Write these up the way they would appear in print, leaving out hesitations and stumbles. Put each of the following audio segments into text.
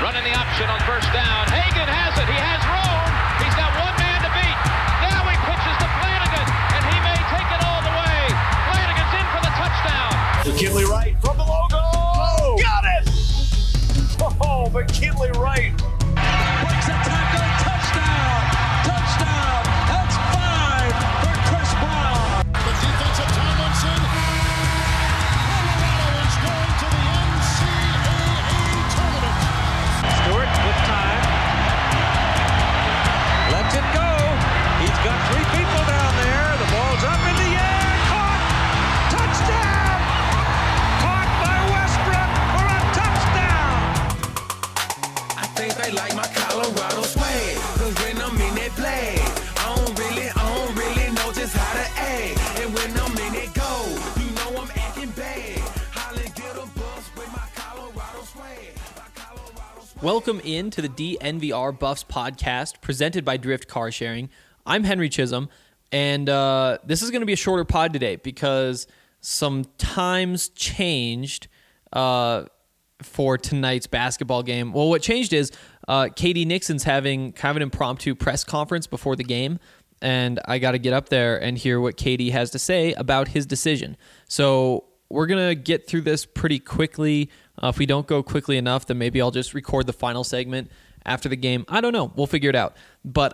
Running the option on first down. Hagan has it. He has room. He's got one man to beat. Now he pitches to Flanagan, and he may take it all the way. Flanagan's in for the touchdown. McKinley Wright from the logo. Oh, got it! Oh, McKinley Wright. Breaks a tackle. Touchdown. Touchdown. That's 5 for Chris Brown. The defensive Tomlinson. Colorado is going to the NCAA tournament. Stewart with time. Lets it go. He's got 3 people down there. The ball's up in the air. Caught. Touchdown. Caught by Westbrook for a touchdown. I think they like my Colorado swag, 'cause when I'm in that play, I don't really know just how to act. And when I'm in it go, you know I'm acting bad. Holly get a bus with my Colorado swag. Welcome in to the DNVR Buffs podcast presented by Drift Car Sharing. I'm Henry Chisholm, and this is going to be a shorter pod today because some times changed for tonight's basketball game. Well, what changed is KD Nixon's having kind of an impromptu press conference before the game, and I got to get up there and hear what KD has to say about his decision. So we're going to get through this pretty quickly. If we don't go quickly enough, then maybe I'll just record the final segment after the game. I don't know. We'll figure it out. But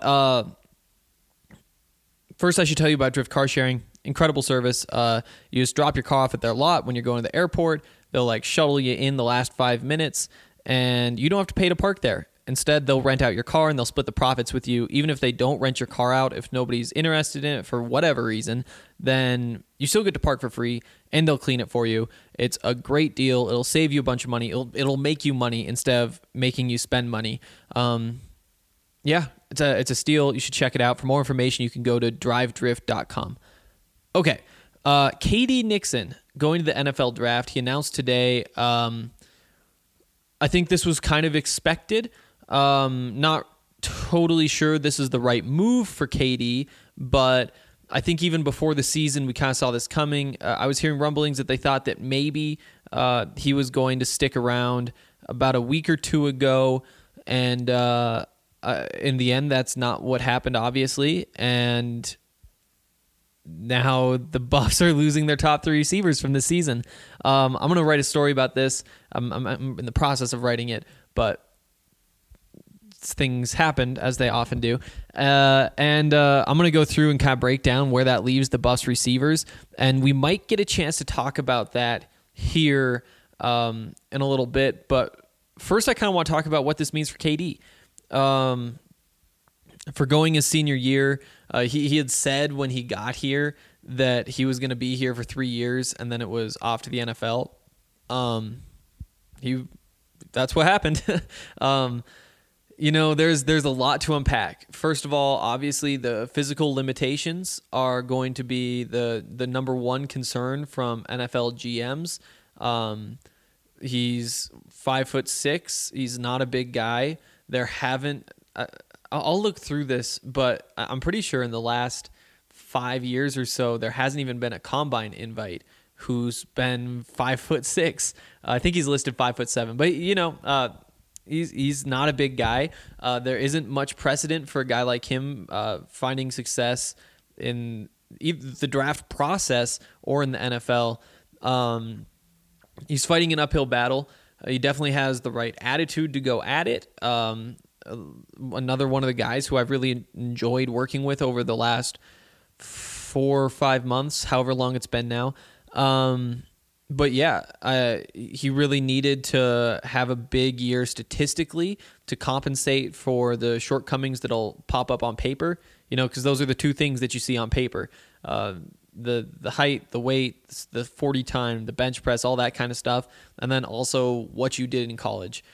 first, I should tell you about Drift Car Sharing. Incredible service. You just drop your car off at their lot when you're going to the airport. They'll shuttle you in the last 5 minutes, and you don't have to pay to park there. Instead, they'll rent out your car and they'll split the profits with you. Even if they don't rent your car out, if nobody's interested in it for whatever reason, then you still get to park for free and they'll clean it for you. It's a great deal. It'll save you a bunch of money. It'll make you money instead of making you spend money. Yeah, it's a steal. You should check it out. For more information, you can go to drivedrift.com. Okay, KD Nixon going to the NFL draft. He announced today. I think this was kind of expected. Not totally sure this is the right move for KD, but I think even before the season, we kind of saw this coming. I was hearing rumblings that they thought that maybe he was going to stick around about a week or two ago, and in the end, that's not what happened, obviously, and now the Buffs are losing their top 3 receivers from the season. I'm going to write a story about this. I'm in the process of writing it, but things happened as they often do. And I'm going to go through and kind of break down where that leaves the Buffs receivers. And we might get a chance to talk about that here in a little bit. But first, I kind of want to talk about what this means for KD. For going his senior year, he had said when he got here that he was going to be here for 3 years, and then it was off to the NFL. That's what happened. There's a lot to unpack. First of all, obviously the physical limitations are going to be the number one concern from NFL GMs. He's 5'6". He's not a big guy. I'll look through this, but I'm pretty sure in the last 5 years or so, there hasn't even been a combine invite who's been 5'6". I think he's listed 5'7", but he's not a big guy. There isn't much precedent for a guy like him finding success in either the draft process or in the NFL. He's fighting an uphill battle. He definitely has the right attitude to go at it. Another one of the guys who I've really enjoyed working with over the last 4 or 5 months, however long it's been now. But yeah, he really needed to have a big year statistically to compensate for the shortcomings that'll pop up on paper, because those are the 2 things that you see on paper. The height, the weight, the 40 time, the bench press, all that kind of stuff. And then also what you did in college.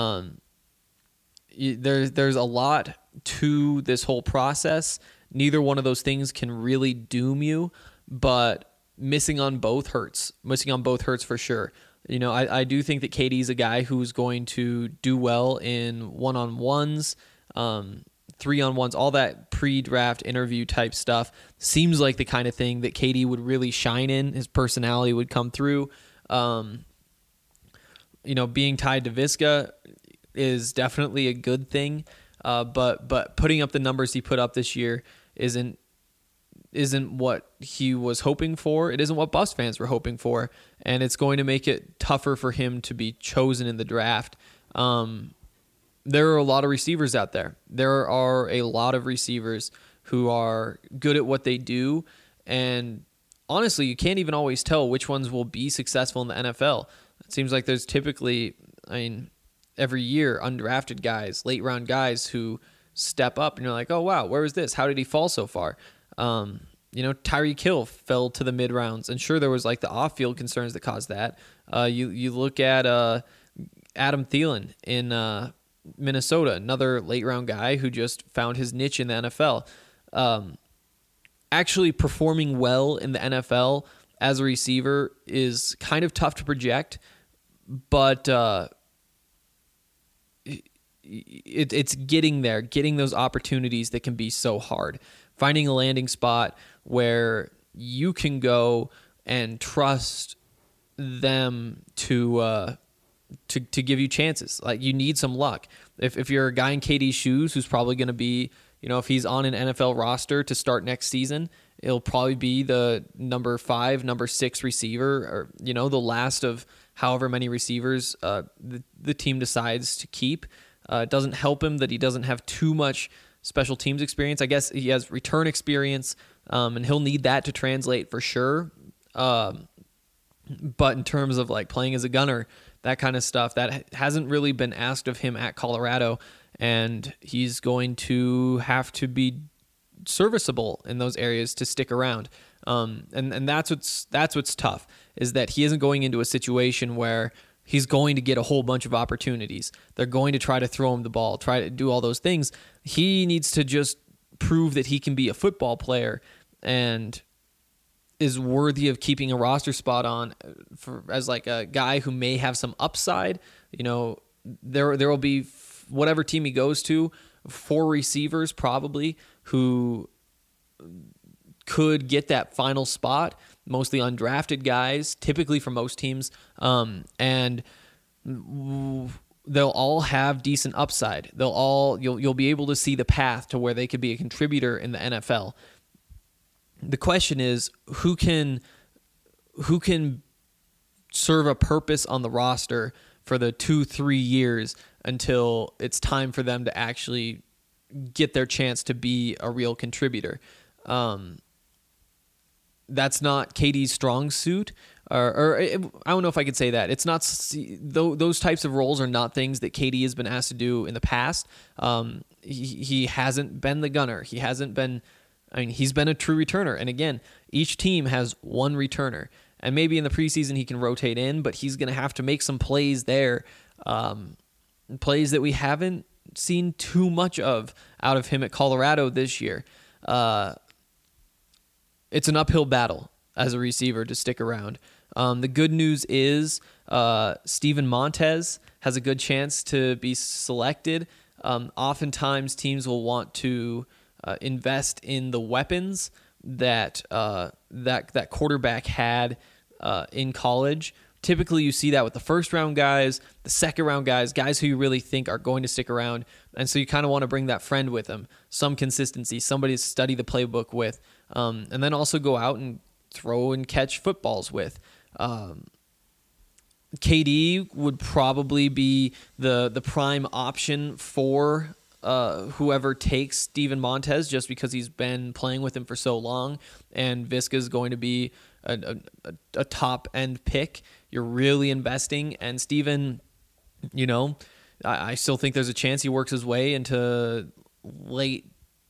There's a lot to this whole process. Neither one of those things can really doom you, but missing on both hurts. Missing on both hurts for sure. I do think that KD's a guy who's going to do well in one-on-ones, 3-on-1s, all that pre-draft interview type stuff. Seems like the kind of thing that KD would really shine in. His personality would come through. Being tied to Visca, is definitely a good thing. But putting up the numbers he put up this year isn't what he was hoping for. It isn't what Buffs fans were hoping for, and it's going to make it tougher for him to be chosen in the draft. There are a lot of receivers out there. There are a lot of receivers who are good at what they do, and honestly, you can't even always tell which ones will be successful in the NFL. It seems like there's typically, every year, undrafted guys, late round guys who step up, and you're like, oh wow, where was this? How did he fall so far? Tyreek Hill fell to the mid rounds, and sure, there was like the off-field concerns that caused that. You look at Adam Thielen in Minnesota, another late round guy who just found his niche in the NFL. Actually performing well in the NFL as a receiver is kind of tough to project, but it's getting there, getting those opportunities that can be so hard. Finding a landing spot where you can go and trust them to give you chances. Like, you need some luck. If you're a guy in KD's shoes who's probably going to be, if he's on an NFL roster to start next season, it'll probably be the number 5, number 6 receiver, or, the last of however many receivers the team decides to keep. It doesn't help him that he doesn't have too much special teams experience. I guess he has return experience, and he'll need that to translate for sure. But in terms of like playing as a gunner, that kind of stuff, that hasn't really been asked of him at Colorado, and he's going to have to be serviceable in those areas to stick around. And that's what's tough, is that he isn't going into a situation where he's going to get a whole bunch of opportunities. They're going to try to throw him the ball, try to do all those things. He needs to just prove that he can be a football player and is worthy of keeping a roster spot on as like a guy who may have some upside. There will be, whatever team he goes to, 4 receivers probably who could get that final spot, mostly undrafted guys, typically for most teams, and they'll all have decent upside. You'll be able to see the path to where they could be a contributor in the NFL. The question is, who can serve a purpose on the roster for the 2-3 years until it's time for them to actually get their chance to be a real contributor. That's not KD's strong suit, or I don't know if I could say that. It's not, those types of roles are not things that KD has been asked to do in the past. He hasn't been the gunner. He hasn't been, he's been a true returner. And again, each team has one returner. And maybe in the preseason he can rotate in, but he's going to have to make some plays there, plays that we haven't seen too much of out of him at Colorado this year. It's an uphill battle as a receiver to stick around. The good news is Steven Montez has a good chance to be selected. Oftentimes teams will want to invest in the weapons that quarterback had in college. Typically, you see that with the first-round guys, the second-round guys who you really think are going to stick around. And so you kind of want to bring that friend with them, some consistency, somebody to study the playbook with, and then also go out and throw and catch footballs with. KD would probably be the prime option for whoever takes Steven Montez, just because he's been playing with him for so long, and Viska is going to be a top-end pick. You're really investing, and Steven, I still think there's a chance he works his way into late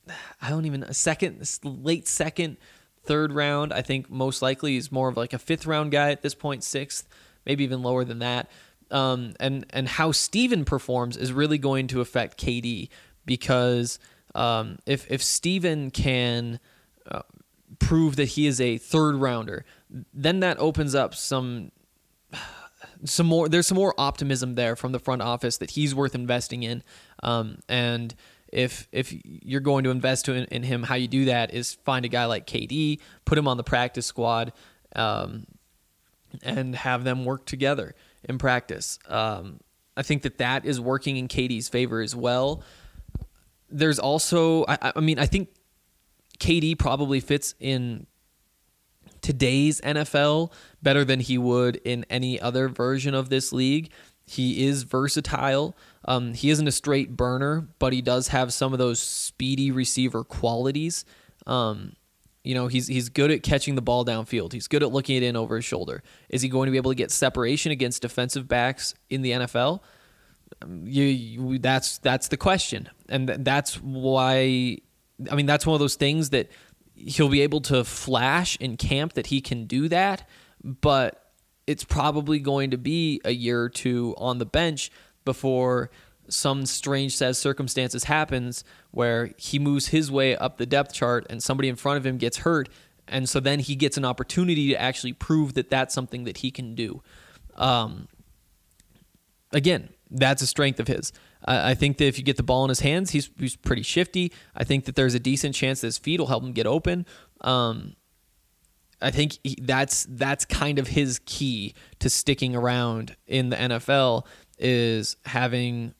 second, third round. I think most likely he's more of like a 5th round guy at this point, 6th, maybe even lower than that. And how Steven performs is really going to affect KD, because if Steven can prove that he is a 3rd rounder, then that opens up some more. There's some more optimism there from the front office that he's worth investing in. And if you're going to invest in him, how you do that is find a guy like KD, put him on the practice squad, and have them work together in practice. I think that is working in KD's favor as well. There's also, I think KD probably fits in today's NFL better than he would in any other version of this league. He is versatile. He isn't a straight burner, but he does have some of those speedy receiver qualities. He's good at catching the ball downfield. He's good at looking it in over his shoulder. Is he going to be able to get separation against defensive backs in the NFL? That's the question. And that's why, that's one of those things that he'll be able to flash in camp that he can do that, but it's probably going to be a year or two on the bench before some strange set of circumstances happens where he moves his way up the depth chart and somebody in front of him gets hurt, and so then he gets an opportunity to actually prove that that's something that he can do. Again, that's a strength of his. I think that if you get the ball in his hands, he's pretty shifty. I think that there's a decent chance that his feet will help him get open. I think that's kind of his key to sticking around in the NFL is having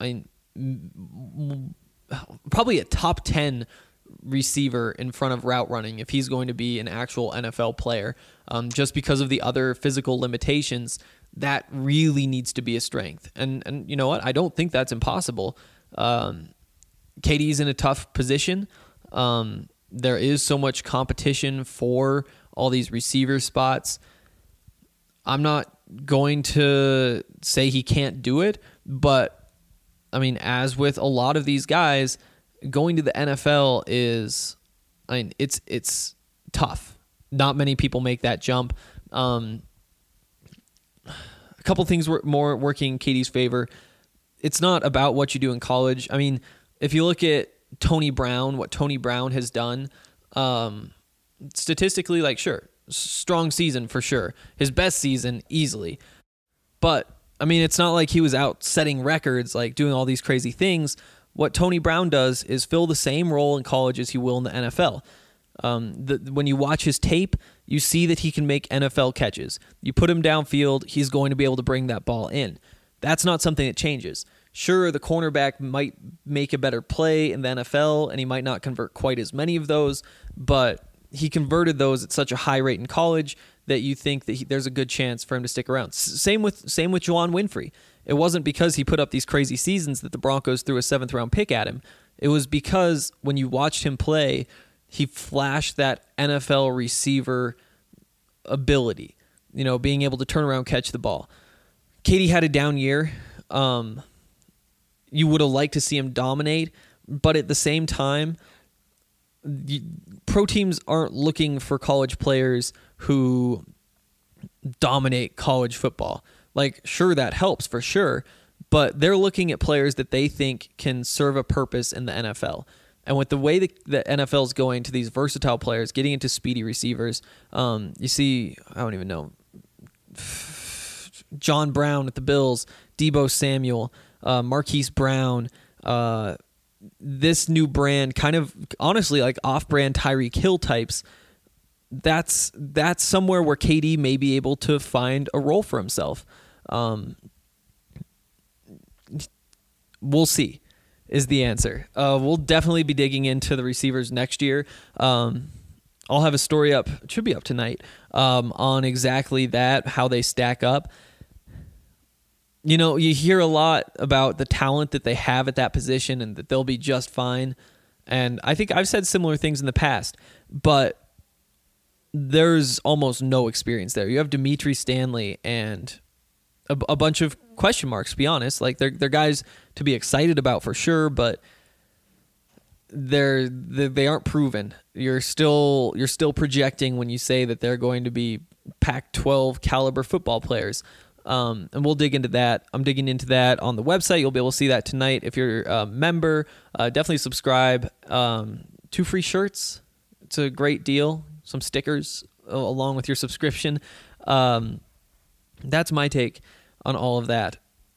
probably a top 10 receiver in front of route running if he's going to be an actual NFL player. Just because of the other physical limitations, that really needs to be a strength. And you know what? I don't think that's impossible. KD's in a tough position. There is so much competition for all these receiver spots. I'm not going to say he can't do it, but as with a lot of these guys, going to the NFL is, it's tough. Not many people make that jump. A couple things were more working in KD's favor. It's not about what you do in college. If you look at Tony Brown, what Tony Brown has done, statistically, sure, strong season for sure. His best season, easily. But, it's not like he was out setting records, doing all these crazy things. What Tony Brown does is fill the same role in college as he will in the NFL. When you watch his tape, you see that he can make NFL catches. You put him downfield, he's going to be able to bring that ball in. That's not something that changes. Sure, the cornerback might make a better play in the NFL, and he might not convert quite as many of those, but he converted those at such a high rate in college that you think that there's a good chance for him to stick around. Same with Juwan Winfrey. It wasn't because he put up these crazy seasons that the Broncos threw a 7th-round pick at him. It was because when you watched him play, he flashed that NFL receiver ability, being able to turn around, catch the ball. KD had a down year. You would have liked to see him dominate, but at the same time, pro teams aren't looking for college players who dominate college football. Sure, that helps for sure, but they're looking at players that they think can serve a purpose in the NFL. And with the way the NFL is going to these versatile players, getting into speedy receivers, you see, I don't even know, John Brown at the Bills, Deebo Samuel, Marquise Brown, this new brand, kind of honestly off-brand Tyreek Hill types. That's somewhere where KD may be able to find a role for himself. We'll see is the answer. We'll definitely be digging into the receivers next year. I'll have a story up, it should be up tonight, on exactly that, how they stack up. You hear a lot about the talent that they have at that position and that they'll be just fine. And I think I've said similar things in the past, but there's almost no experience there. You have Dimitri Stanley and a bunch of question marks, to be honest. They're guys to be excited about for sure, but they aren't proven. You're still projecting when you say that they're going to be Pac-12 caliber football players. And we'll dig into that. I'm digging into that on the website. You'll be able to see that tonight. If you're a member, definitely subscribe. 2 free shirts. It's a great deal. Some stickers along with your subscription. That's my take on all of that.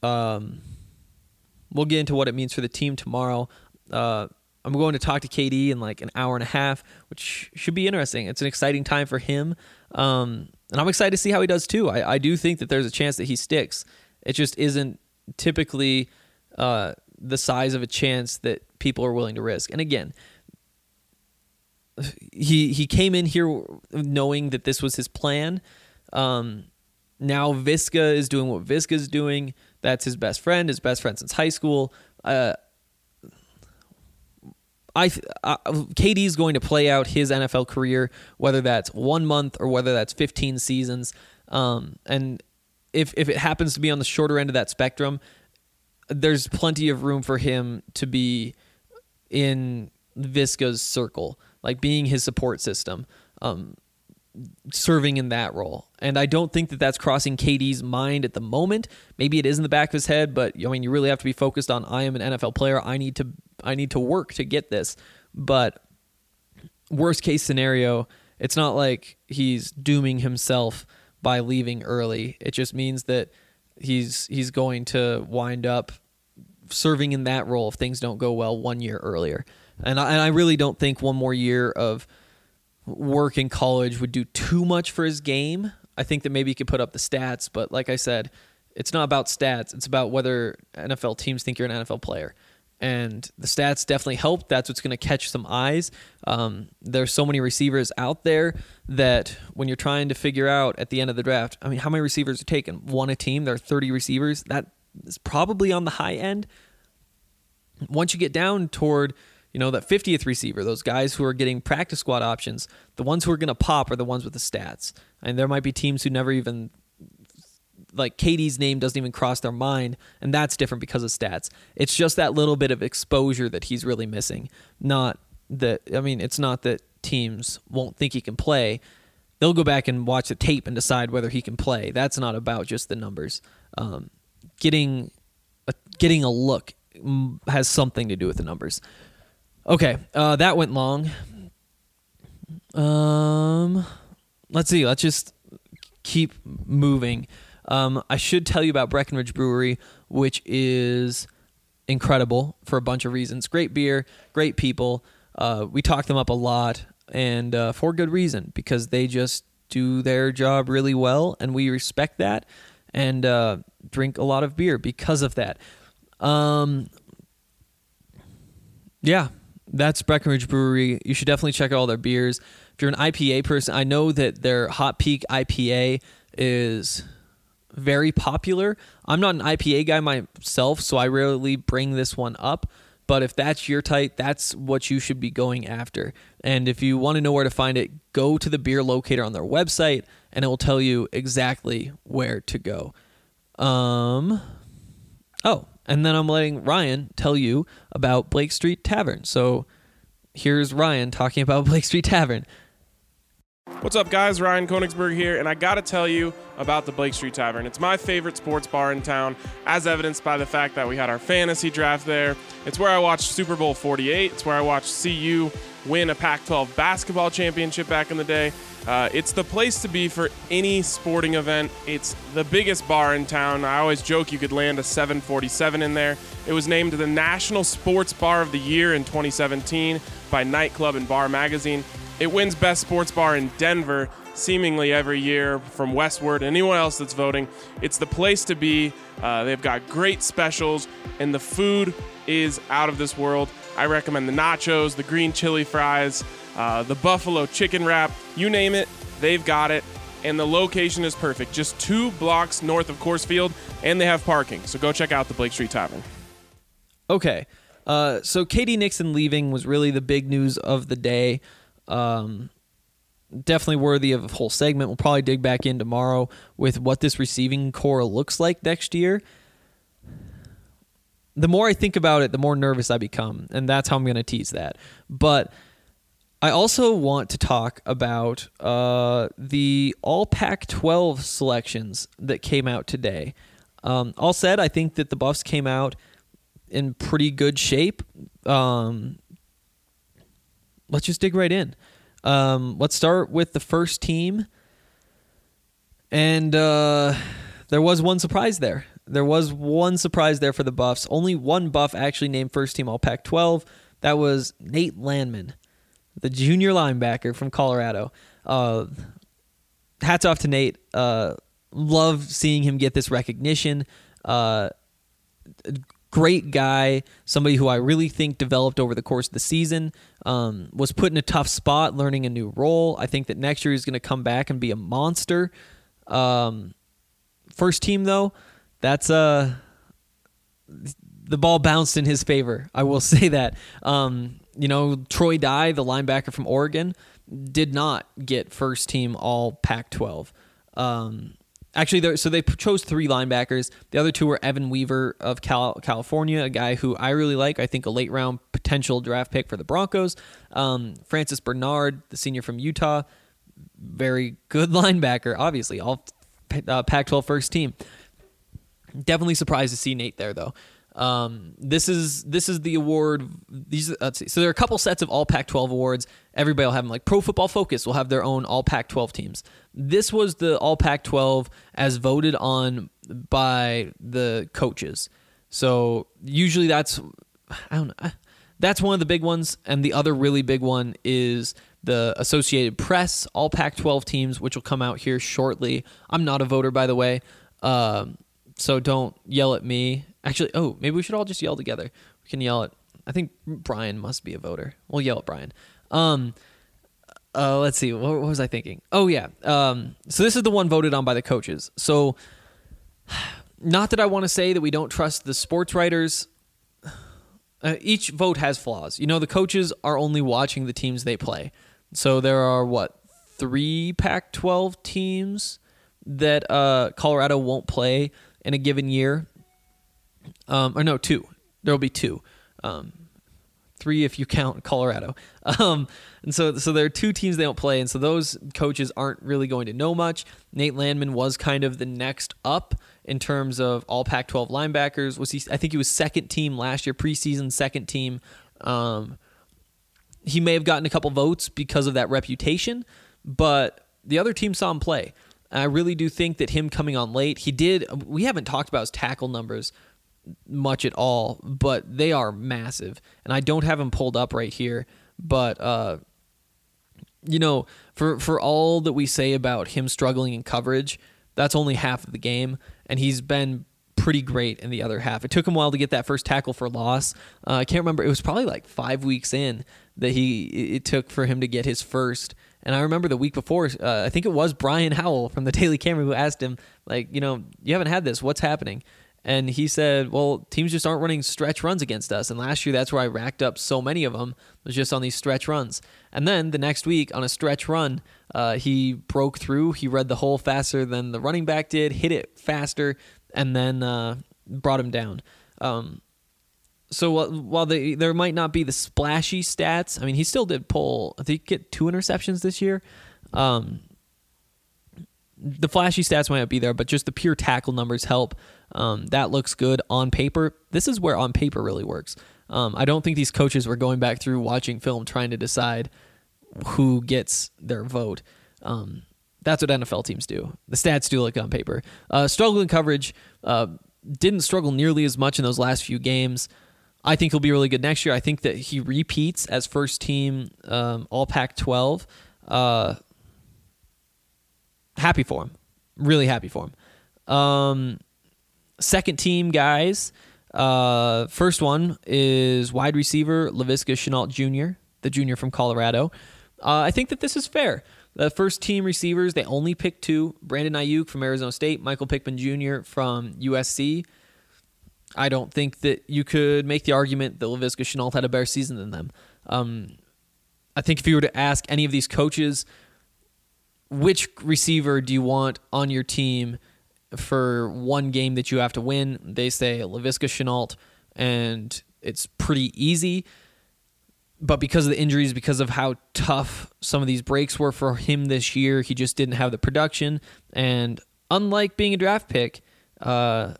We'll get into what it means for the team tomorrow. I'm going to talk to KD in an hour and a half, which should be interesting. It's an exciting time for him. And I'm excited to see how he does too. I do think that there's a chance that he sticks. It just isn't typically the size of a chance that people are willing to risk. And again, he came in here knowing that this was his plan. Now Visca is doing what Visca's doing. That's his best friend since high school. KD's going to play out his NFL career, whether that's 1 month or whether that's 15 seasons. And if it happens to be on the shorter end of that spectrum, there's plenty of room for him to be in Visca's circle, like being his support system, serving in that role. And I don't think that that's crossing KD's mind at the moment. Maybe it is in the back of his head, but I mean, you really have to be focused on, I am an NFL player. I need to work to get this. But worst case scenario, it's not like he's dooming himself by leaving early. It just means that he's going to wind up serving in that role if things don't go well 1 year earlier. And I really don't think one more year of work in college would do too much for his game. I think that maybe he could put up the stats, but like I said, it's not about stats. It's about whether NFL teams think you're an NFL player. And the stats definitely help. That's what's going to catch some eyes. There's so many receivers out there that when you're trying to figure out at the end of the draft, I mean, how many receivers are taken? One a team, there are 30 receivers. That is probably on the high end. Once you get down toward, that 50th receiver, those guys who are getting practice squad options, the ones who are going to pop are the ones with the stats. And there might be teams who never even, like KD's name doesn't even cross their mind, and that's different because of stats. It's just that little bit of exposure that he's really missing. It's not that teams won't think he can play. They'll go back and watch the tape and decide whether he can play. That's not about just the numbers. Getting a look has something to do with the numbers. Okay, that went long. Let's see. Let's just keep moving. I should tell you about Breckenridge Brewery, which is incredible for a bunch of reasons. Great beer, great people. We talk them up a lot, and for good reason, because they just do their job really well, and we respect that, and drink a lot of beer because of that. Yeah, that's Breckenridge Brewery. You should definitely check out all their beers. If you're an IPA person, I know that their Hot Peak IPA is very popular. I'm not an IPA guy myself, so I rarely bring this one up. But if that's your type, that's what you should be going after. And if you want to know where to find it, go to the beer locator on their website, and it will tell you exactly where to go. And then I'm letting Ryan tell you about Blake Street Tavern. So here's Ryan talking about Blake Street Tavern. What's up, guys? Ryan Koenigsberg here, and I gotta tell you about the Blake Street Tavern. It's my favorite sports bar in town, as evidenced by the fact that we had our fantasy draft there. It's where I watched Super Bowl 48. It's where I watched CU win a Pac-12 basketball championship back in the day. It's the place to be for any sporting event. It's the biggest bar in town. I always joke you could land a 747 in there. It was named the National Sports Bar of the Year in 2017 by Nightclub and Bar Magazine. It wins Best Sports Bar in Denver seemingly every year from Westward. Anyone else that's voting, it's the place to be. They've got great specials, and the food is out of this world. I recommend the nachos, the green chili fries, the buffalo chicken wrap, you name it, they've got it. And the location is perfect, just 2 blocks north of Coors Field, and they have parking. So go check out the Blake Street Tavern. Okay, so Katie Nixon leaving was really the big news of the day. Definitely worthy of a whole segment. We'll probably dig back in tomorrow with what this receiving core looks like next year. The more I think about it, the more nervous I become, and that's how I'm going to tease that. But I also want to talk about the all Pac-12 selections that came out today. All said, I think that the Buffs came out in pretty good shape. Let's just dig right in. Let's start with the first team. And there was one surprise there. There was one surprise there for the Buffs. Only one Buff actually named first team all Pac-12. That was Nate Landman, the junior linebacker from Colorado. Hats off to Nate. Love seeing him get this recognition. great guy, somebody who I really think developed over the course of the season, was put in a tough spot, learning a new role. I think that next year he's going to come back and be a monster. First team, though, that's the ball bounced in his favor. I will say that. Troy Dye, the linebacker from Oregon, did not get first team all Pac-12. Actually, so they chose 3 linebackers. The other 2 were Evan Weaver of California, a guy who I really like. I think a late round potential draft pick for the Broncos. Francis Bernard, the senior from Utah, very good linebacker, obviously, all Pac-12 first team. Definitely surprised to see Nate there, though. This is the award. Let's see. So there are a couple sets of all Pac-12 awards. Everybody will have them. Like Pro Football Focus will have their own all Pac-12 teams. This was the all Pac-12 as voted on by the coaches. So usually that's one of the big ones, and the other really big one is the Associated Press all Pac-12 teams, which will come out here shortly. I'm not a voter, by the way, so don't yell at me. Actually, maybe we should all just yell together. We can yell at, I think Brian must be a voter. We'll yell at Brian. Let's see. What was I thinking? Oh, yeah. So this is the one voted on by the coaches. So not that I want to say that we don't trust the sports writers. Each vote has flaws. The coaches are only watching the teams they play. So there are, 3 Pac-12 teams that Colorado won't play in a given year. 2. There will be 2. 3 if you count Colorado. And so there are 2 teams they don't play, and so those coaches aren't really going to know much. Nate Landman was kind of the next up in terms of all Pac-12 linebackers. I think he was second team last year, preseason second team. He may have gotten a couple votes because of that reputation, but the other team saw him play. And I really do think that him coming on late, we haven't talked about his tackle numbers much at all, but they are massive. And I don't have him pulled up right here, but for all that we say about him struggling in coverage, that's only half of the game, and he's been pretty great in the other half. It took him a while to get that first tackle for loss. I can't remember. It was probably like 5 weeks in that it took for him to get his first. And I remember the week before, I think it was Brian Howell from the Daily Camera who asked him, you haven't had this. What's happening? And he said, well, teams just aren't running stretch runs against us. And last year, that's where I racked up so many of them, was just on these stretch runs. And then the next week on a stretch run, he broke through. He read the hole faster than the running back did, hit it faster, and then brought him down. So while there might not be the splashy stats, I mean, he still did pull, I think, get 2 interceptions this year. The flashy stats might not be there, but just the pure tackle numbers help. That looks good on paper. This is where on paper really works. I don't think these coaches were going back through watching film trying to decide who gets their vote. That's what NFL teams do. The stats do look on paper. Struggle in coverage. Didn't struggle nearly as much in those last few games. I think he'll be really good next year. I think that he repeats as first team All Pac-12. Happy for him. Really happy for him. Second team guys. First one is wide receiver Laviska Shenault Jr., the junior from Colorado. I think that this is fair. The first team receivers, they only picked 2. Brandon Ayuk from Arizona State, Michael Pittman Jr. from USC. I don't think that you could make the argument that Laviska Shenault had a better season than them. I think if you were to ask any of these coaches, which receiver do you want on your team for one game that you have to win, they say Laviska Shenault, and it's pretty easy. But because of the injuries, because of how tough some of these breaks were for him this year, he just didn't have the production. And unlike being a draft pick, the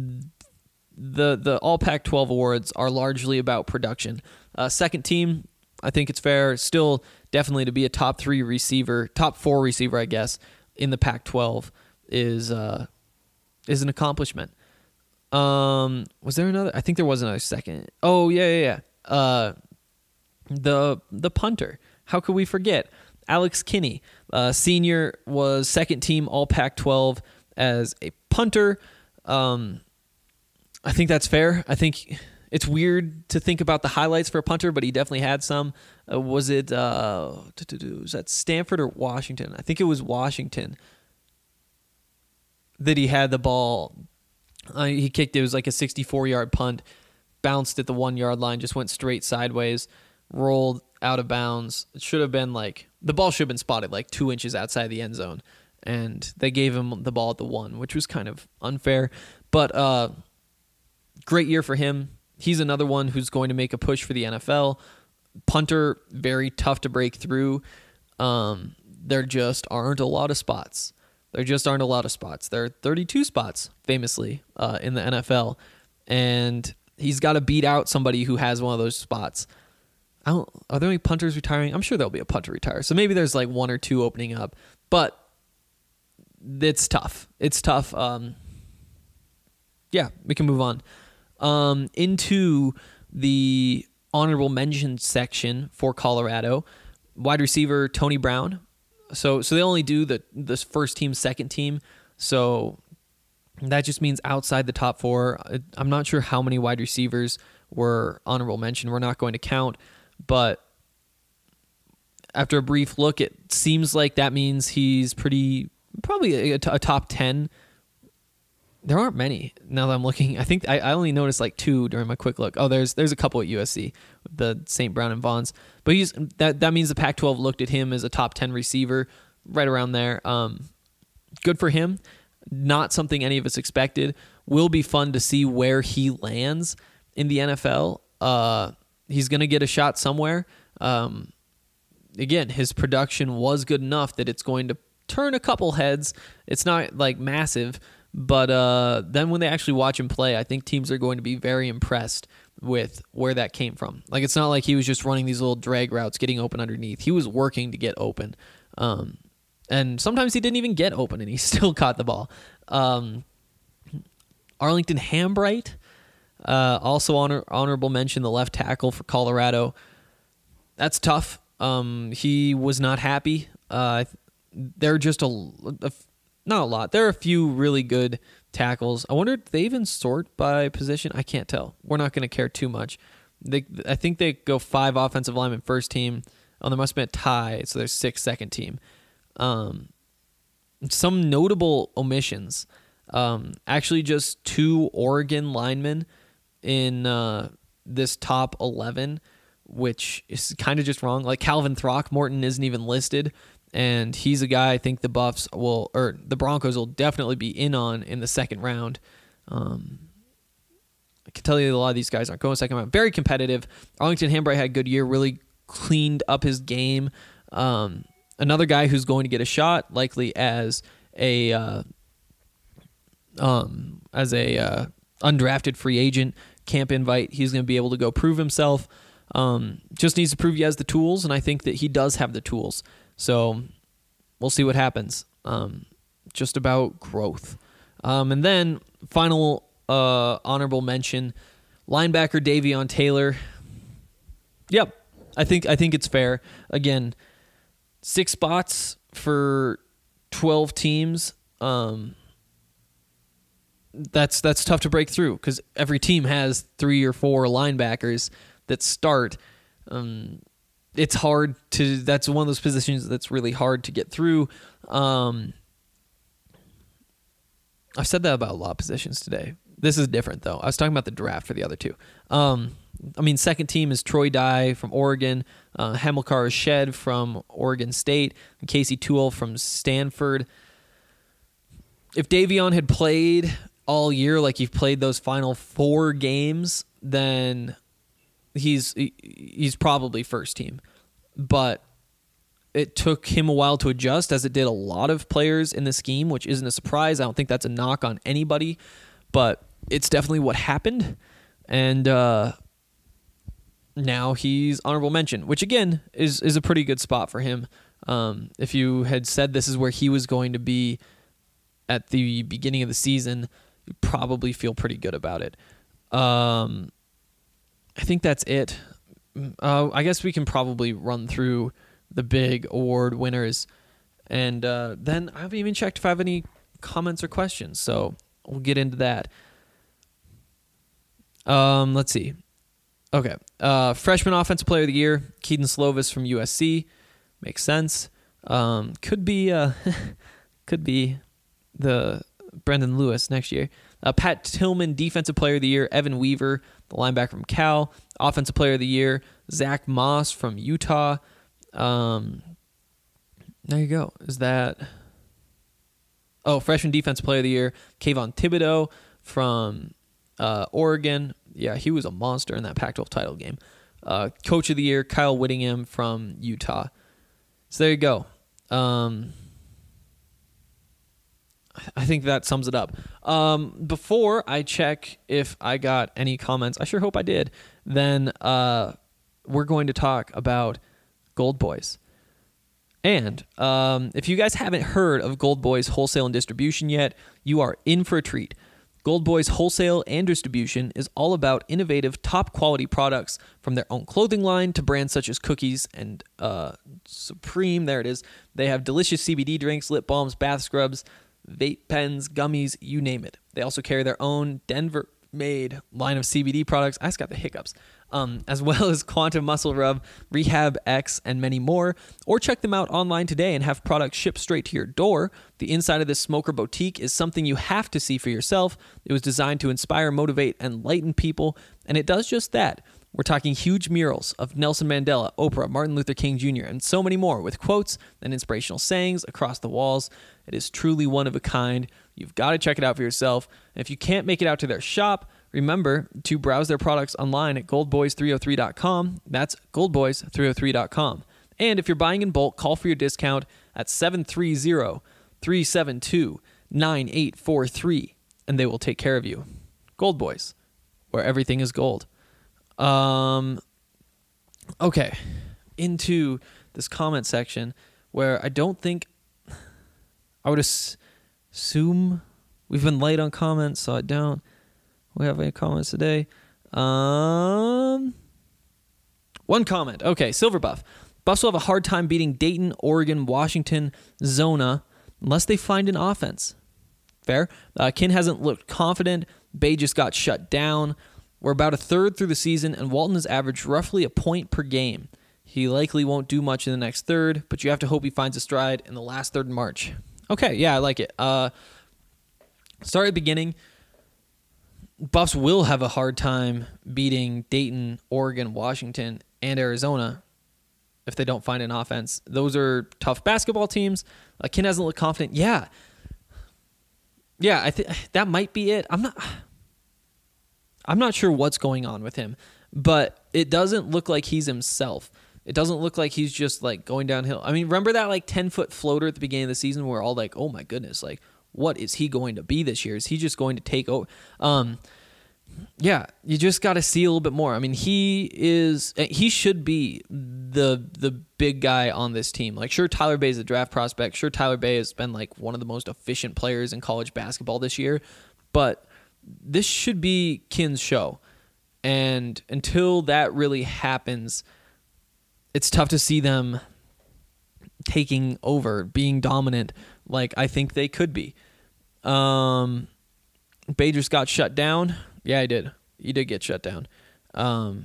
All Pac-12 awards are largely about production. Second team, I think it's fair. Still, definitely to be a top 4 receiver, I guess, in the Pac-12 is an accomplishment. Was there another? I think there was another second. Oh yeah. The punter. How could we forget? Alex Kinney, senior, was second team All Pac-12 as a punter. I think that's fair. I think it's weird to think about the highlights for a punter, but he definitely had some. Was that Stanford or Washington? I think it was Washington that he had the ball. He kicked it. It was like a 64-yard punt, bounced at the 1-yard line, just went straight sideways, rolled out of bounds. It should have been the ball should have been spotted like 2 inches outside the end zone, and they gave him the ball at the 1, which was kind of unfair. But great year for him. He's another one who's going to make a push for the NFL. Punter, very tough to break through. There just aren't a lot of spots. There are 32 spots, famously, in the NFL. And he's got to beat out somebody who has one of those spots. Are there any punters retiring? I'm sure there'll be a punter retire. So maybe there's like 1 or 2 opening up. But it's tough. Yeah, we can move on. Into the honorable mention section for Colorado. Wide receiver Tony Brown. So they only do the first team, second team. So that just means outside the top 4. I'm not sure how many wide receivers were honorable mention. We're not going to count. But after a brief look, it seems like that means he's probably a top 10. There aren't many now that I'm looking. I think I only noticed like 2 during my quick look. Oh, there's a couple at USC, the St. Brown and Vaughns. But that means the Pac-12 looked at him as a top 10 receiver, right around there. Good for him. Not something any of us expected. Will be fun to see where he lands in the NFL. He's going to get a shot somewhere. Again, his production was good enough that it's going to turn a couple heads. It's not like massive. But then when they actually watch him play, I think teams are going to be very impressed with where that came from. Like, it's not like he was just running these little drag routes, getting open underneath. He was working to get open. And sometimes he didn't even get open, and he still caught the ball. Arlington Hambright, also honorable mention, the left tackle for Colorado. That's tough. He was not happy. They're just not a lot. There are a few really good tackles. I wonder if they even sort by position. I can't tell. We're not going to care too much. I think they go 5 offensive linemen first team. Oh, there must have been a tie, so there's 6 second team. Some notable omissions. Actually, just 2 Oregon linemen in this top 11, which is kind of just wrong. Like, Calvin Throckmorton isn't even listed. And he's a guy I think the Broncos will definitely be in on in the second round. I can tell you a lot of these guys aren't going second round. Very competitive. Arlington Hambright had a good year, really cleaned up his game. Another guy who's going to get a shot, likely as a undrafted free agent, camp invite. He's going to be able to go prove himself. Just needs to prove he has the tools, and I think that he does have the tools. So we'll see what happens. Just about growth. And then final honorable mention, linebacker Davion Taylor. Yep, I think it's fair. Again, 6 spots for 12 teams. That's tough to break through because every team has 3 or 4 linebackers that start. It's hard to. That's one of those positions that's really hard to get through. I've said that about a lot of positions today. This is different though. I was talking about the draft for the other 2. Second team is Troy Dye from Oregon, Hamilcar Shed from Oregon State, and Casey Toole from Stanford. If Davion had played all year like he's played those final 4 games, then he's probably first team. But it took him a while to adjust, as it did a lot of players in the scheme, which isn't a surprise. I don't think that's a knock on anybody, but it's definitely what happened. And now he's honorable mention, which again is a pretty good spot for him. If you had said this is where he was going to be at the beginning of the season, you'd probably feel pretty good about it. I think that's it. I guess we can probably run through the big award winners. And then I haven't even checked if I have any comments or questions, so we'll get into that. Let's see. Okay. Freshman Offensive Player of the Year, Keaton Slovis from USC. Makes sense. Could be the Brendan Lewis next year. Pat Tillman, Defensive Player of the Year, Evan Weaver, the linebacker from Cal. Offensive Player of the Year, Zach Moss from Utah. There you go. Is that... Oh, Freshman Defensive Player of the Year, Kayvon Thibodeau from Oregon. Yeah, he was a monster in that Pac-12 title game. Coach of the Year, Kyle Whittingham from Utah. So there you go. I think that sums it up. Before I check if I got any comments, I sure hope I did, then we're going to talk about Gold Boys. And if you guys haven't heard of Gold Boys Wholesale and Distribution yet, you are in for a treat. Gold Boys Wholesale and Distribution is all about innovative, top-quality products from their own clothing line to brands such as Cookies and Supreme. There it is. They have delicious CBD drinks, lip balms, bath scrubs, vape pens, gummies, you name it. They also carry their own Denver-made line of CBD products. I just got the hiccups. As well as Quantum Muscle Rub, Rehab X, and many more. Or check them out online today and have products shipped straight to your door. The inside of this smoker boutique is something you have to see for yourself. It was designed to inspire, motivate, and enlighten people, and it does just that. We're talking huge murals of Nelson Mandela, Oprah, Martin Luther King Jr., and so many more with quotes and inspirational sayings across the walls. It is truly one of a kind. You've got to check it out for yourself. And if you can't make it out to their shop, remember to browse their products online at goldboys303.com. That's goldboys303.com. And if you're buying in bulk, call for your discount at 730-372-9843, and they will take care of you. Gold Boys, where everything is gold. Okay, into this comment section where I don't think I would assume we've been light on comments, so I don't. We have any comments today? One comment. Okay, Silver Buff. Buffs will have a hard time beating Dayton, Oregon, Washington, Zona unless they find an offense. Fair. Kin hasn't looked confident. Bay just got shut down. We're about a third through the season, and Walton has averaged roughly a point per game. He likely won't do much in the next third, but you have to hope he finds a stride in the last third in March. Okay, yeah, I like it. Start at the beginning. Buffs will have a hard time beating Dayton, Oregon, Washington, and Arizona if they don't find an offense. Those are tough basketball teams. Kin hasn't looked confident. Yeah, I think that might be it. I'm not sure what's going on with him, but it doesn't look like he's himself. It doesn't look like he's just like going downhill. I mean, remember that like 10-foot floater at the beginning of the season where we're all like, oh my goodness, like what is he going to be this year? Is he just going to take over? Yeah, you just got to see a little bit more. I mean, he should be the big guy on this team. Like, sure, Tyler Bay is a draft prospect. Sure, Tyler Bay has been like one of the most efficient players in college basketball this year, but this should be Kin's show. And until that really happens, it's tough to see them taking over, being dominant like I think they could be. Bay just got shut down. Yeah, he did. He did get shut down. I'm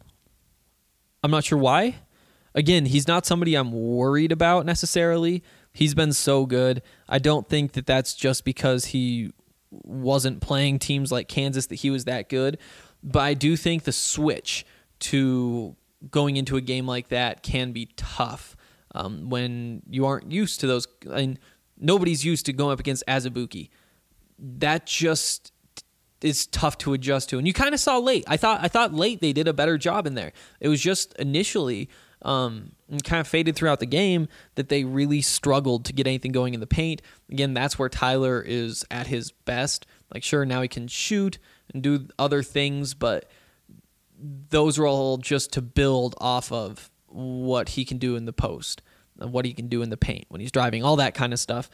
not sure why. Again, he's not somebody I'm worried about necessarily. He's been so good. I don't think that that's just because he wasn't playing teams like Kansas that he was that good. But I do think the switch to going into a game like that can be tough when you aren't used to those. I mean, nobody's used to going up against Azubuike. That just is tough to adjust to. And you kind of saw late. I thought late they did a better job in there. It was just initially and kind of faded throughout the game that they really struggled to get anything going in the paint. Again, that's where Tyler is at his best. Like, sure, now he can shoot and do other things, but those are all just to build off of what he can do in the post and what he can do in the paint when he's driving, all that kind of stuff.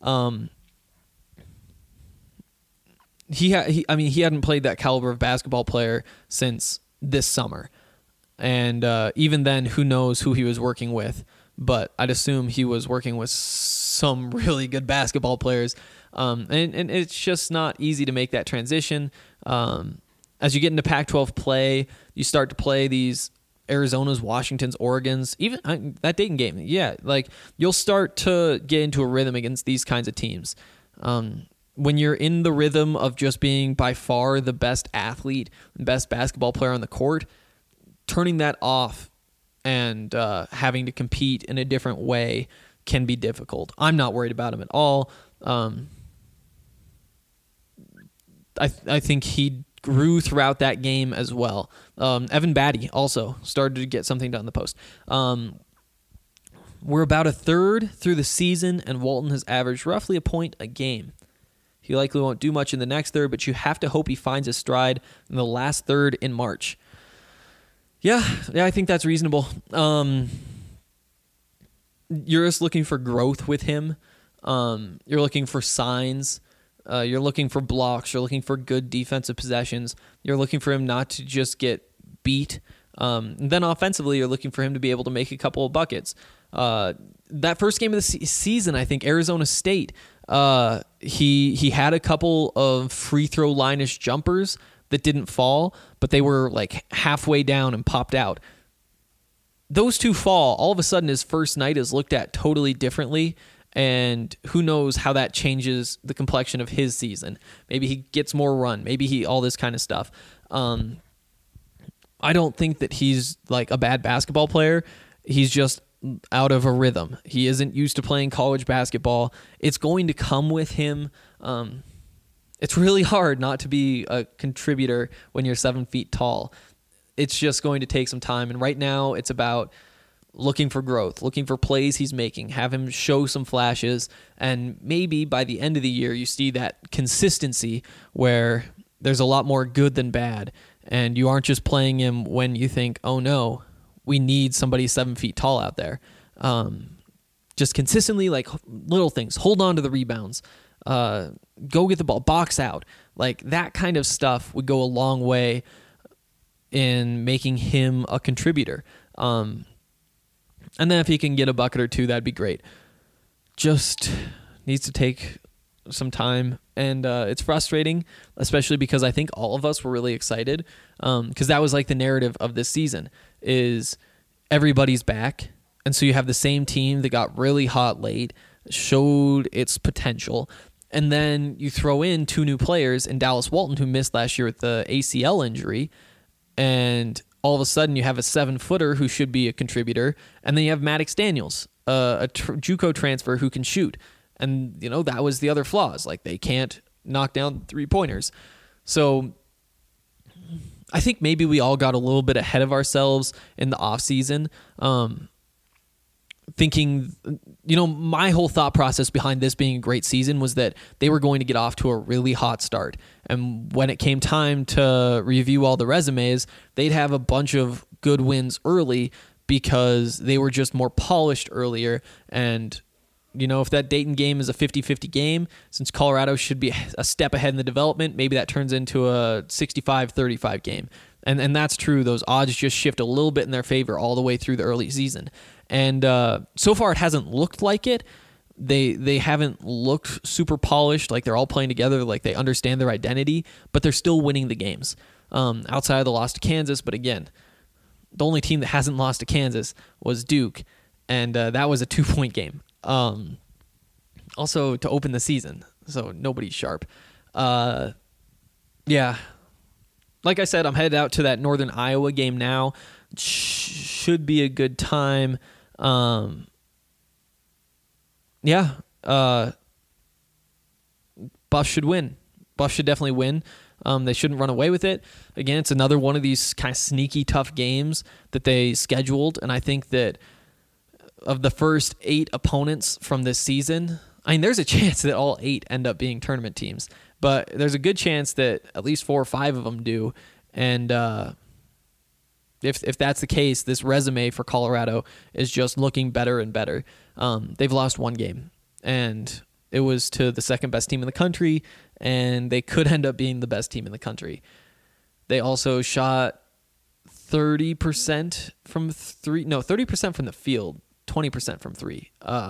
He hadn't played that caliber of basketball player since this summer. And even then, who knows who he was working with. But I'd assume he was working with some really good basketball players. And it's just not easy to make that transition. as you get into Pac-12 play, you start to play these Arizonas, Washingtons, Oregons, even that Dayton game. Yeah, like you'll start to get into a rhythm against these kinds of teams. When you're in the rhythm of just being by far the best athlete and best basketball player on the court, turning that off and having to compete in a different way can be difficult. I'm not worried about him at all. I think he grew throughout that game as well. Evan Batty also started to get something done in the post. We're about a third through the season, and Walton has averaged roughly a point a game. He likely won't do much in the next third, but you have to hope he finds his stride in the last third in March. Yeah, I think that's reasonable. You're just looking for growth with him. You're looking for signs. You're looking for blocks. You're looking for good defensive possessions. You're looking for him not to just get beat. And then offensively, you're looking for him to be able to make a couple of buckets. That first game of the season, I think Arizona State, he had a couple of free throw line-ish jumpers that didn't fall, but they were like halfway down and popped out. Those two fall. All of a sudden, his first night is looked at totally differently. And who knows how that changes the complexion of his season. Maybe he gets more run. Maybe all this kind of stuff. I don't think that he's like a bad basketball player. He's just out of a rhythm. He isn't used to playing college basketball. It's going to come with him. It's really hard not to be a contributor when you're 7 feet tall. It's just going to take some time. And right now it's about looking for growth, looking for plays he's making, have him show some flashes, and maybe by the end of the year you see that consistency where there's a lot more good than bad, and you aren't just playing him when you think, oh no, we need somebody 7 feet tall out there. Just consistently, like little things, hold on to the rebounds, go get the ball, box out. Like that kind of stuff would go a long way in making him a contributor. And then if he can get a bucket or two, that'd be great. Just needs to take some time. And it's frustrating, especially because I think all of us were really excited. Because that was like the narrative of this season is everybody's back. And so you have the same team that got really hot late, showed its potential. And then you throw in two new players in Dallas Walton, who missed last year with the ACL injury. And all of a sudden you have a 7-footer who should be a contributor, and then you have Maddox Daniels, a JUCO transfer who can shoot. And, that was the other flaws. Like, they can't knock down three-pointers. So I think maybe we all got a little bit ahead of ourselves in the offseason, thinking, my whole thought process behind this being a great season was that they were going to get off to a really hot start. And when it came time to review all the resumes, they'd have a bunch of good wins early because they were just more polished earlier. And, if that Dayton game is a 50-50 game, since Colorado should be a step ahead in the development, maybe that turns into a 65-35 game. And that's true. Those odds just shift a little bit in their favor all the way through the early season. And so far it hasn't looked like it. They haven't looked super polished, like they're all playing together, like they understand their identity, but they're still winning the games. Outside of the loss to Kansas, but again, the only team that hasn't lost to Kansas was Duke, and that was a 2-point game. Also to open the season, so nobody's sharp. Yeah. Like I said, I'm headed out to that Northern Iowa game now. Should be a good time. Buff should win. Buff should definitely win. They shouldn't run away with it. Again, it's another one of these kind of sneaky, tough games that they scheduled, and I think that of the first 8 opponents from this season, there's a chance that all 8 end up being tournament teams, but there's a good chance that at least 4 or 5 of them do, and if that's the case, this resume for Colorado is just looking better and better. They've lost 1 game, and it was to the second best team in the country, and they could end up being the best team in the country. They also shot 30% from 30% from the field, 20% from 3.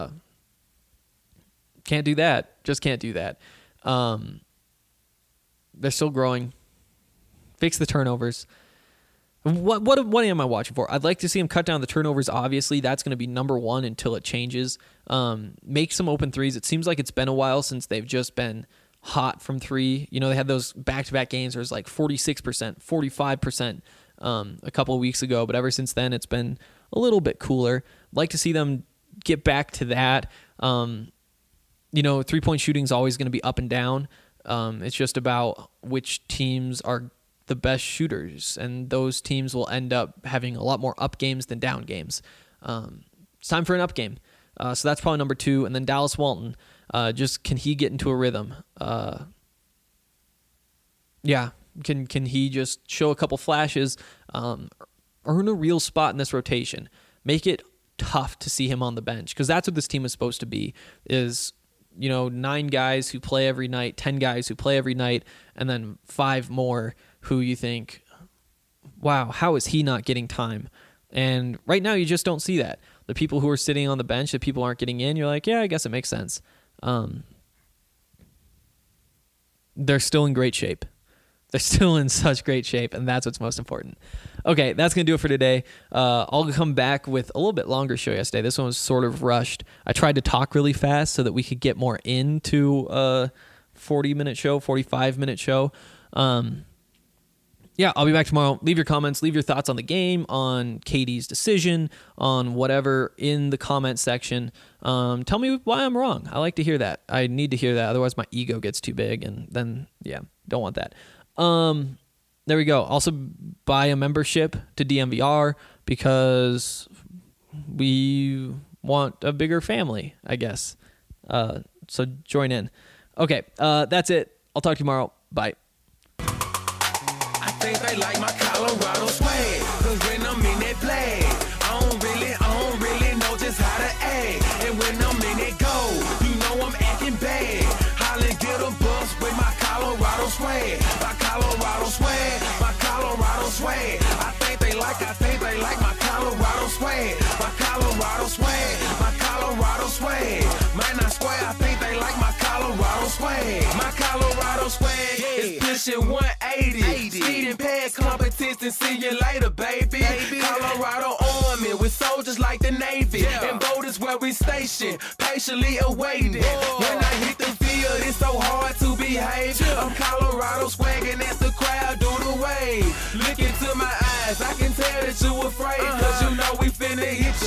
Can't do that. Just can't do that. They're still growing. Fix the turnovers. What am I watching for? I'd like to see him cut down the turnovers. Obviously, that's going to be number one until it changes. Make some open threes. It seems like it's been a while since they've just been hot from three. You know, they had those back-to-back games where it was like 46%, 45% a couple of weeks ago, but ever since then, it's been a little bit cooler. I'd like to see them get back to that. You know, three-point shooting is always going to be up and down. It's just about which teams are the best shooters, and those teams will end up having a lot more up games than down games. It's time for an up game. So that's probably number 2. And then Dallas Walton, just can he get into a rhythm? Yeah, can he just show a couple flashes, earn a real spot in this rotation, make it tough to see him on the bench, because that's what this team is supposed to be, is, you know, 9 guys who play every night, 10 guys who play every night, and then 5 more who you think, wow, how is he not getting time? And right now you just don't see that. The people who are sitting on the bench, the people aren't getting in, you're like, yeah, I guess it makes sense. They're still in great shape. They're still in such great shape, and that's what's most important. Okay, that's going to do it for today. I'll come back with a little bit longer show yesterday. This one was sort of rushed. I tried to talk really fast so that we could get more into a 40-minute show, 45-minute show. Yeah, I'll be back tomorrow. Leave your comments. Leave your thoughts on the game, on KD's decision, on whatever in the comment section. Tell me why I'm wrong. I like to hear that. I need to hear that. Otherwise, my ego gets too big, and then, yeah, don't want that. There we go. Also, buy a membership to DMVR because we want a bigger family, I guess. So join in. Okay, that's it. I'll talk to you tomorrow. Bye. I think they like my Colorado swag, cause when I'm in that flag, I don't really know just how to act. And when I'm in that goal, you know I'm acting bad. Holla, get a bus with my Colorado swag. My Colorado swag, my Colorado swag. I think they like my Colorado swag. My Colorado swag, my Colorado swag. Man, I swear, I think they like my Colorado swag. My Colorado swag is pushing 180. Speeding past competition, see you later, baby. Colorado Army with soldiers like the Navy. And boat is where we station, patiently awaiting. When I hit the field, it's so hard to behave. I'm Colorado swagging as the crowd do the wave. Look into my eyes, I can tell that you afraid. Cause you know we finna hit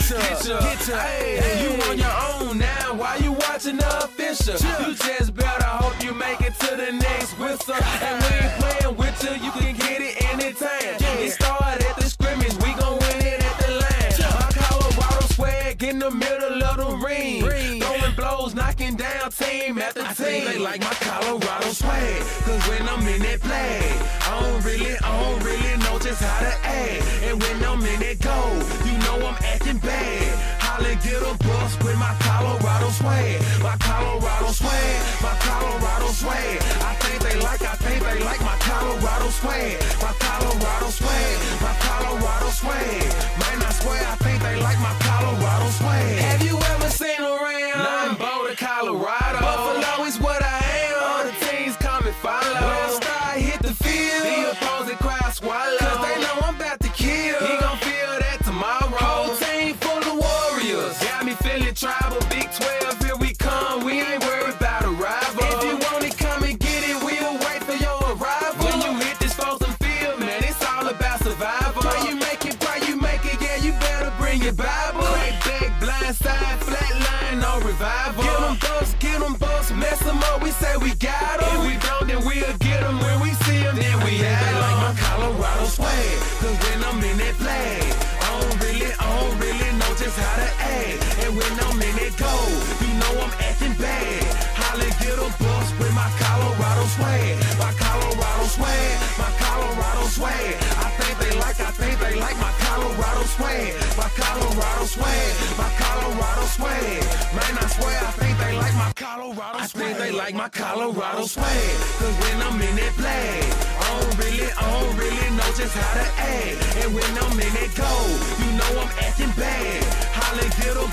ya. Hey, you on your own now, why you watching the official? You just better hope you make it to the next whistle. And we ain't playing with you can get it anytime. It started at the scrimmage, we gon' win it at the line. My Colorado swag in the middle of the ring. Throwing blows, knocking down team after team. I think they like my Colorado swag, cause when I'm in that flag, I don't really know just how to act. And when I'm in that goal, you know I'm acting bad. Holla, get a bus with my Colorado swag. My Colorado swag, my Colorado swag. I think they like my Colorado swag. My Colorado swag, my Colorado swag. Man, I swear, I think they like my Colorado swag. Have you ever seen around? Nothing but Colorado. Buffalo is what I am. All the teams come and follow. When I start hit the field, the opposing crowd swallow. Cause they know I'm about to kill. He gon' feel that tomorrow. Whole team full of warriors. Got me feeling tribal. Big 12, here we come. We ain't worried about a rival. If you want it, come and get it. We'll wait for your arrival. When you hit this frozen field, man, it's all about survival. Pray you make it, yeah, you better bring your Bible. Crack back, blind side, flat line, no revival. Get them bucks, mess them up, we say we got them. If we don't, then we'll get them. When we see them, then we have them. Like my Colorado swag, cause when I'm in that flag, I don't really know just how to act. And when I'm in that goal, you know I'm acting bad. Holla, get a bus with my Colorado swag. My Colorado swag, my Colorado swag. I think they like my Colorado swag. My Colorado swag, my Colorado swag. Man, I swear, I think they like my Colorado swag. I think they like my Colorado swag. Cause when I'm in that flag, I don't really know just how to act. And when I'm in that goal, you know I'm acting bad. Holla, get a bus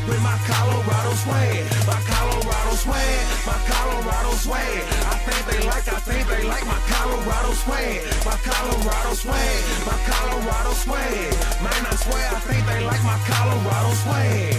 with my Colorado swag. My Colorado swag, my Colorado swag. I think they like my Colorado swag. My Colorado swag, my Colorado swag. Man, I swear I think they like my Colorado swag.